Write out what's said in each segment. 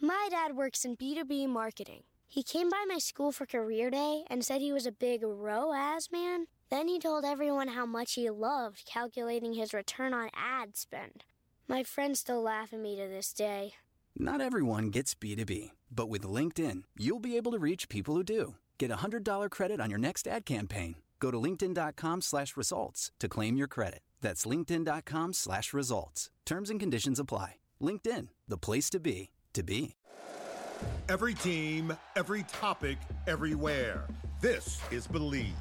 My dad works in B2B marketing. He came by my school for career day and said he was a big ROAS man. Then he told everyone how much he loved calculating his return on ad spend. My friends still laugh at me to this day. Not everyone gets B2B, but with LinkedIn, you'll be able to reach people who do. Get a $100 credit on your next ad campaign. Go to linkedin.com/results to claim your credit. That's linkedin.com/results. Terms and conditions apply. LinkedIn, the place to be, to be. Every team, every topic, everywhere. This is Believe.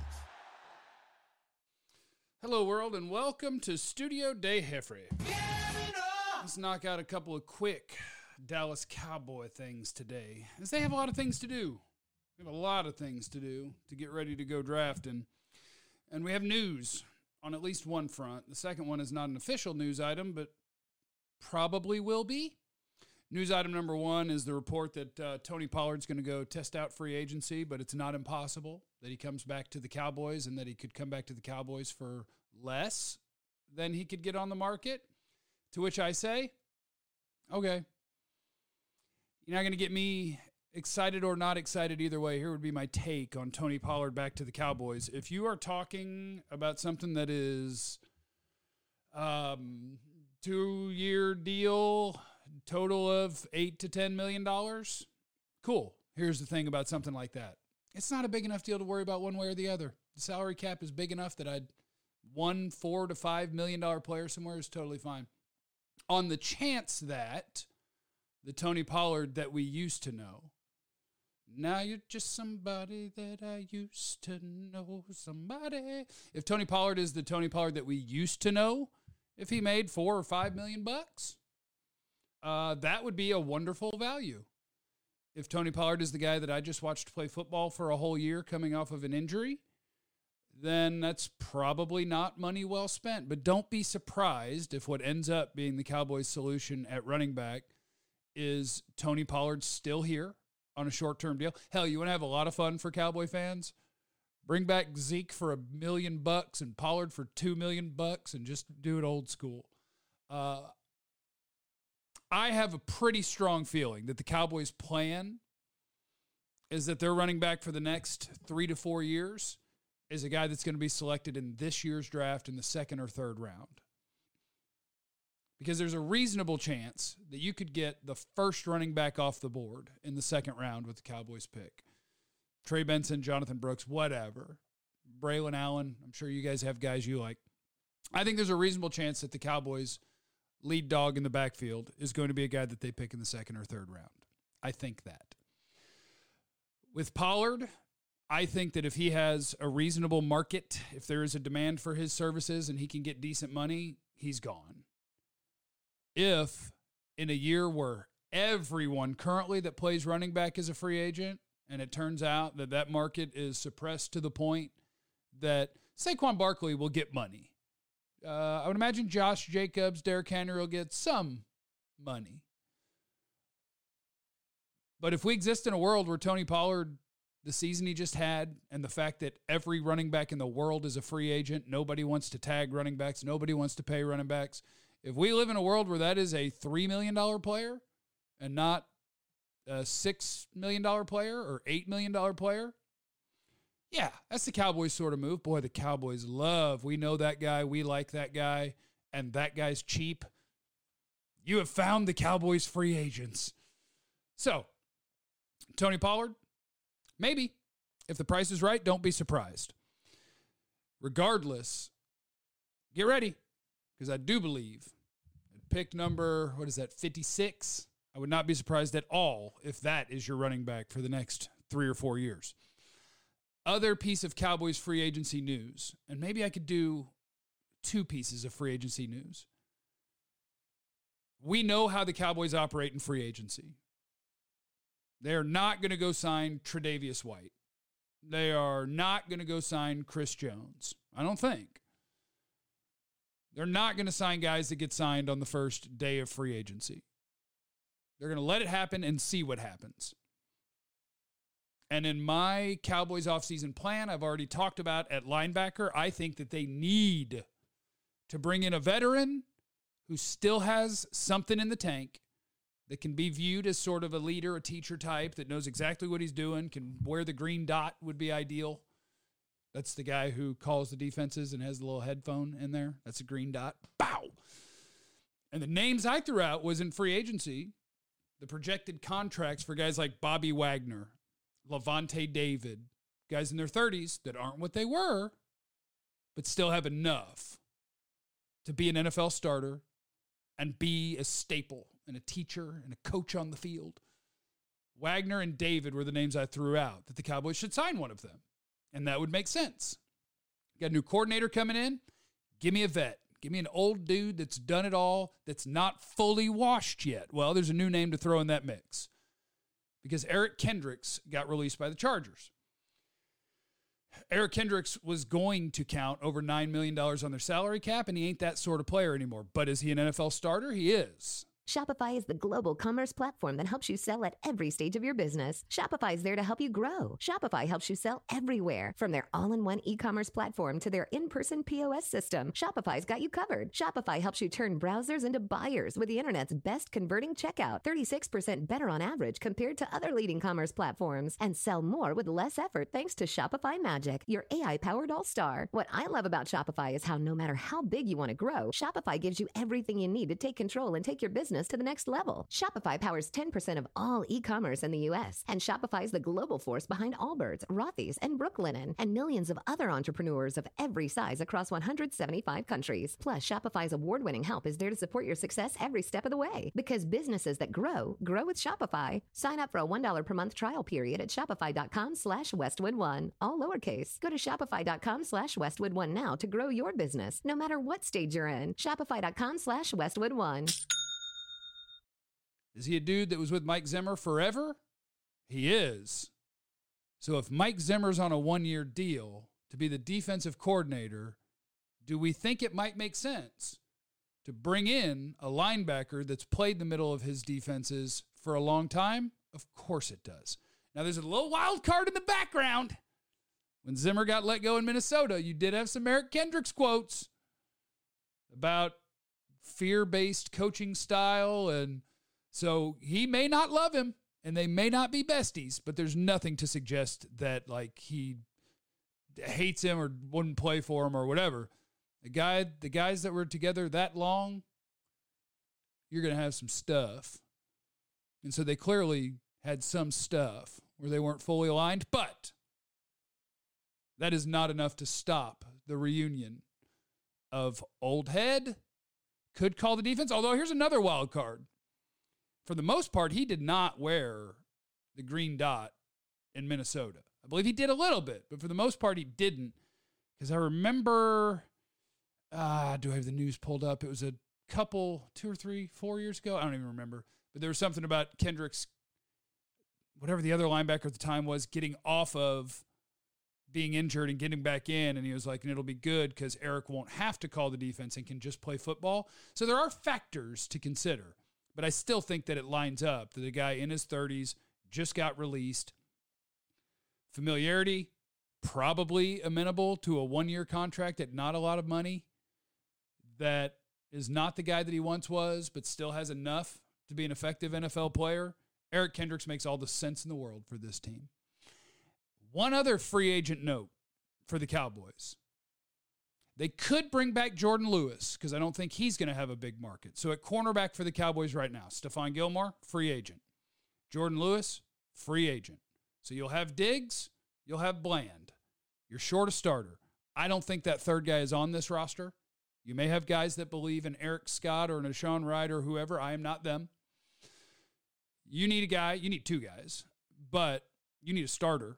Hello, world, and welcome to Studio Day Heffrey. Let's knock out a couple of quick Dallas Cowboy things today, as they have a lot of things to do. We have a lot of things to do to get ready to go drafting. And we have news on at least one front. The second one is not an official news item, but probably will be. News item number one is the report that Tony Pollard's going to go test out free agency, but it's not impossible that he comes back to the Cowboys and that he could come back to the Cowboys for less than he could get on the market. To which I say, okay, you're not going to get me excited or not excited either way. Here would be my take on Tony Pollard back to the Cowboys. If you are talking about something that is 2-year deal, total of $8 to $10 million, cool. Here's the thing about something like that. It's not a big enough deal to worry about one way or the other. The salary cap is big enough that one $4 to $5 million player somewhere is totally fine. On the chance that the Tony Pollard that we used to know, now you're just somebody that I used to know, somebody. If Tony Pollard is the Tony Pollard that we used to know, if he made $4 or $5 million bucks, that would be a wonderful value. If Tony Pollard is the guy that I just watched play football for a whole year coming off of an injury, then that's probably not money well spent. But don't be surprised if what ends up being the Cowboys' solution at running back is Tony Pollard still here on a short-term deal. Hell, you want to have a lot of fun for Cowboy fans? Bring back Zeke for $1 million and Pollard for $2 million and just do it old school. I have a pretty strong feeling that the Cowboys' plan is that their running back for the next 3 to 4 years is a guy that's going to be selected in this year's draft in the second or third round. Because there's a reasonable chance that you could get the first running back off the board in the second round with the Cowboys pick. Trey Benson, Jonathan Brooks, whatever. Braylon Allen, I'm sure you guys have guys you like. I think there's a reasonable chance that the Cowboys' lead dog in the backfield is going to be a guy that they pick in the second or third round. I think that. With Pollard, I think that if he has a reasonable market, if there is a demand for his services and he can get decent money, he's gone. If in a year where everyone currently that plays running back is a free agent, and it turns out that that market is suppressed to the point that Saquon Barkley will get money. I would imagine Josh Jacobs, Derrick Henry will get some money. But if we exist in a world where Tony Pollard, the season he just had, and the fact that every running back in the world is a free agent, nobody wants to tag running backs, nobody wants to pay running backs. If we live in a world where that is a $3 million player and not a $6 million player or $8 million player, yeah, that's the Cowboys sort of move. Boy, the Cowboys love, we know that guy, we like that guy, and that guy's cheap. You have found the Cowboys free agents. So, Tony Pollard, maybe. If the price is right, don't be surprised. Regardless, get ready, because I do believe at pick number, 56? I would not be surprised at all if that is your running back for the next 3 or 4 years. Other piece of Cowboys free agency news, and maybe I could do 2 pieces of free agency news. We know how the Cowboys operate in free agency. They're not going to go sign Tre'Davious White. They are not going to go sign Chris Jones. I don't think. They're not going to sign guys that get signed on the first day of free agency. They're going to let it happen and see what happens. And in my Cowboys offseason plan, I've already talked about at linebacker, I think that they need to bring in a veteran who still has something in the tank that can be viewed as sort of a leader, a teacher type that knows exactly what he's doing, can wear the green dot would be ideal. That's the guy who calls the defenses and has the little headphone in there. That's a green dot. Bow! And the names I threw out was in free agency, the projected contracts for guys like Bobby Wagner, Levante David, guys in their 30s that aren't what they were, but still have enough to be an NFL starter and be a staple and a teacher and a coach on the field. Wagner and David were the names I threw out, that the Cowboys should sign one of them. And that would make sense. Got a new coordinator coming in. Give me a vet. Give me an old dude that's done it all, that's not fully washed yet. Well, there's a new name to throw in that mix. Because Eric Kendricks got released by the Chargers. Eric Kendricks was going to count over $9 million on their salary cap, and he ain't that sort of player anymore. But is he an NFL starter? He is. Shopify is the global commerce platform that helps you sell at every stage of your business. Shopify is there to help you grow. Shopify helps you sell everywhere, from their all-in-one e-commerce platform to their in-person POS system. Shopify's got you covered. Shopify helps you turn browsers into buyers with the internet's best converting checkout, 36% better on average compared to other leading commerce platforms, and sell more with less effort thanks to Shopify Magic, your AI-powered all-star. What I love about Shopify is how no matter how big you want to grow, Shopify gives you everything you need to take control and take your business to the next level. Shopify powers 10% of all e-commerce in the U.S., and Shopify is the global force behind Allbirds, Rothy's, and Brooklinen, and millions of other entrepreneurs of every size across 175 countries. Plus, Shopify's award-winning help is there to support your success every step of the way. Because businesses that grow with Shopify. Sign up for a $1 per month trial period at shopify.com/Westwood1. All lowercase. Go to shopify.com/Westwood1 now to grow your business, no matter what stage you're in. Shopify.com/Westwood1. Is he a dude that was with Mike Zimmer forever? He is. So if Mike Zimmer's on a one-year deal to be the defensive coordinator, do we think it might make sense to bring in a linebacker that's played the middle of his defenses for a long time? Of course it does. Now there's a little wild card in the background. When Zimmer got let go in Minnesota, you did have some Eric Kendricks quotes about fear-based coaching style, and so he may not love him, and they may not be besties, but there's nothing to suggest that like he hates him or wouldn't play for him or whatever. The guys that were together that long, you're going to have some stuff. And so they clearly had some stuff where they weren't fully aligned, but that is not enough to stop the reunion of old head, could call the defense. Although here's another wild card. For the most part, he did not wear the green dot in Minnesota. I believe he did a little bit, but for the most part, he didn't. Because I remember, do I have the news pulled up? It was a couple, 2 or 3, 4 years ago. I don't even remember. But there was something about Kendricks, whatever the other linebacker at the time was, getting off of being injured and getting back in. And he was like, and it'll be good because Eric won't have to call the defense and can just play football. So there are factors to consider. But I still think that it lines up that a guy in his 30s just got released. Familiarity, probably amenable to a one-year contract at not a lot of money. That is not the guy that he once was, but still has enough to be an effective NFL player. Eric Kendricks makes all the sense in the world for this team. One other free agent note for the Cowboys. They could bring back Jordan Lewis because I don't think he's going to have a big market. So at cornerback for the Cowboys right now, Stephon Gilmore, free agent. Jordan Lewis, free agent. So you'll have Diggs, you'll have Bland. You're short a starter. I don't think that third guy is on this roster. You may have guys that believe in Eric Scott or Nashawn Wright or whoever. I am not them. You need a guy. You need two guys. But you need a starter.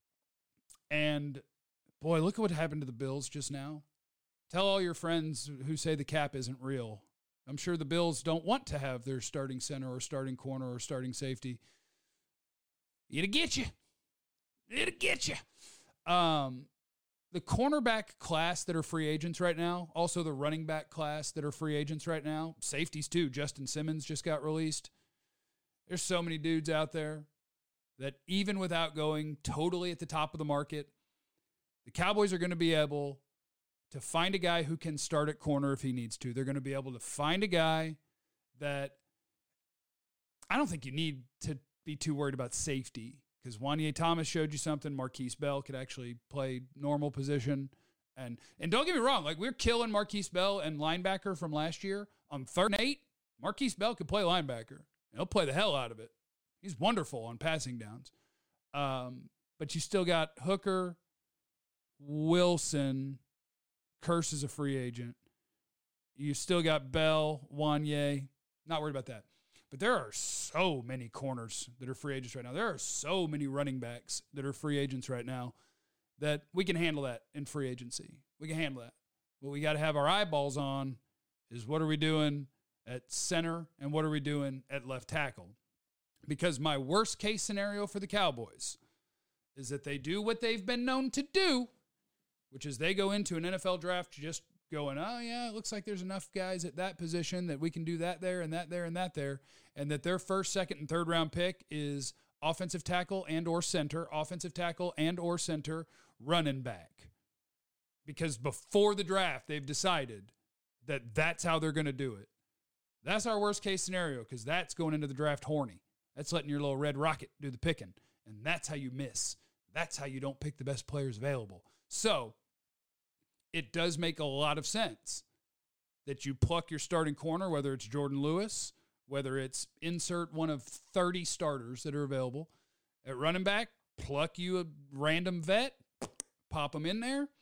And, boy, look at what happened to the Bills just now. Tell all your friends who say the cap isn't real. I'm sure the Bills don't want to have their starting center or starting corner or starting safety. It'll get you. It'll get you. The cornerback class that are free agents right now, also the running back class that are free agents right now, safeties too. Justin Simmons just got released. There's so many dudes out there that even without going totally at the top of the market, the Cowboys are going to be able to find a guy who can start at corner if he needs to. They're going to be able to find a guy that I don't think you need to be too worried about safety because Wanye Thomas showed you something. Marquise Bell could actually play normal position. And don't get me wrong, like we're killing Marquise Bell and linebacker from last year. On 3rd and 8, Marquise Bell could play linebacker. He'll play the hell out of it. He's wonderful on passing downs. But you still got Hooker, Wilson, Curse is a free agent. You still got Bell, Wanye. Not worried about that. But there are so many corners that are free agents right now. There are so many running backs that are free agents right now that we can handle that in free agency. We can handle that. What we got to have our eyeballs on is what are we doing at center and what are we doing at left tackle? Because my worst case scenario for the Cowboys is that they do what they've been known to do, which is they go into an NFL draft just going, oh, yeah, it looks like there's enough guys at that position that we can do that there and that there and that there, and that their first, second, and third round pick is offensive tackle and or center, running back. Because before the draft, they've decided that that's how they're going to do it. That's our worst case scenario because that's going into the draft horny. That's letting your little red rocket do the picking, and that's how you miss. That's how you don't pick the best players available. So it does make a lot of sense that you pluck your starting corner, whether it's Jordan Lewis, whether it's insert one of 30 starters that are available. At running back, pluck you a random vet, pop them in there.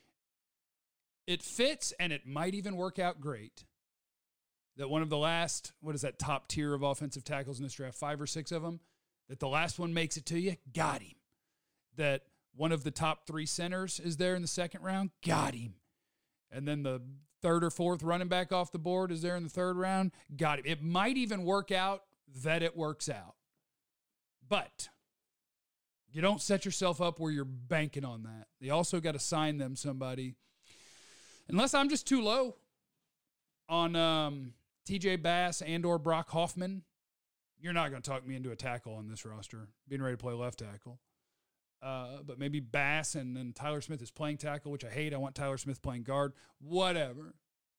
It fits, and it might even work out great. That one of the last, top tier of offensive tackles in this draft, 5 or 6 of them, that the last one makes it to you, got him. That one of the top 3 centers is there in the second round, got him. And then the 3rd or 4th running back off the board is there in the 3rd round, got him. It might even work out that it works out. But you don't set yourself up where you're banking on that. They also got to sign them somebody. Unless I'm just too low on TJ Bass and or Brock Hoffman, you're not going to talk me into a tackle on this roster, being ready to play left tackle. But maybe Bass and then Tyler Smith is playing tackle, which I hate. I want Tyler Smith playing guard. Whatever.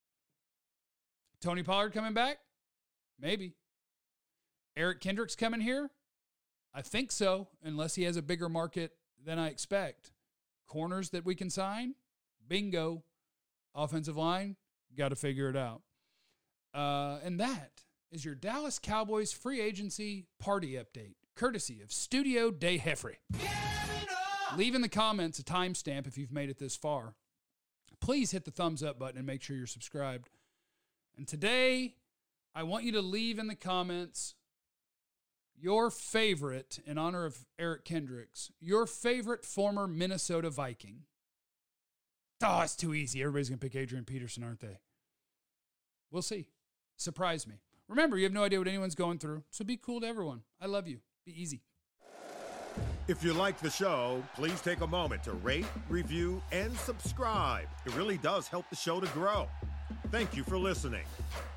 Tony Pollard coming back? Maybe. Eric Kendricks coming here? I think so, unless he has a bigger market than I expect. Corners that we can sign? Bingo. Offensive line? Got to figure it out. And that is your Dallas Cowboys free agency party update, courtesy of Studio De Jeffrey. Leave in the comments a timestamp if you've made it this far. Please hit the thumbs up button and make sure you're subscribed. And today, I want you to leave in the comments your favorite, in honor of Eric Kendricks, your favorite former Minnesota Viking. Oh, it's too easy. Everybody's going to pick Adrian Peterson, aren't they? We'll see. Surprise me. Remember, you have no idea what anyone's going through, so be cool to everyone. I love you. Be easy. If you like the show, please take a moment to rate, review, and subscribe. It really does help the show to grow. Thank you for listening.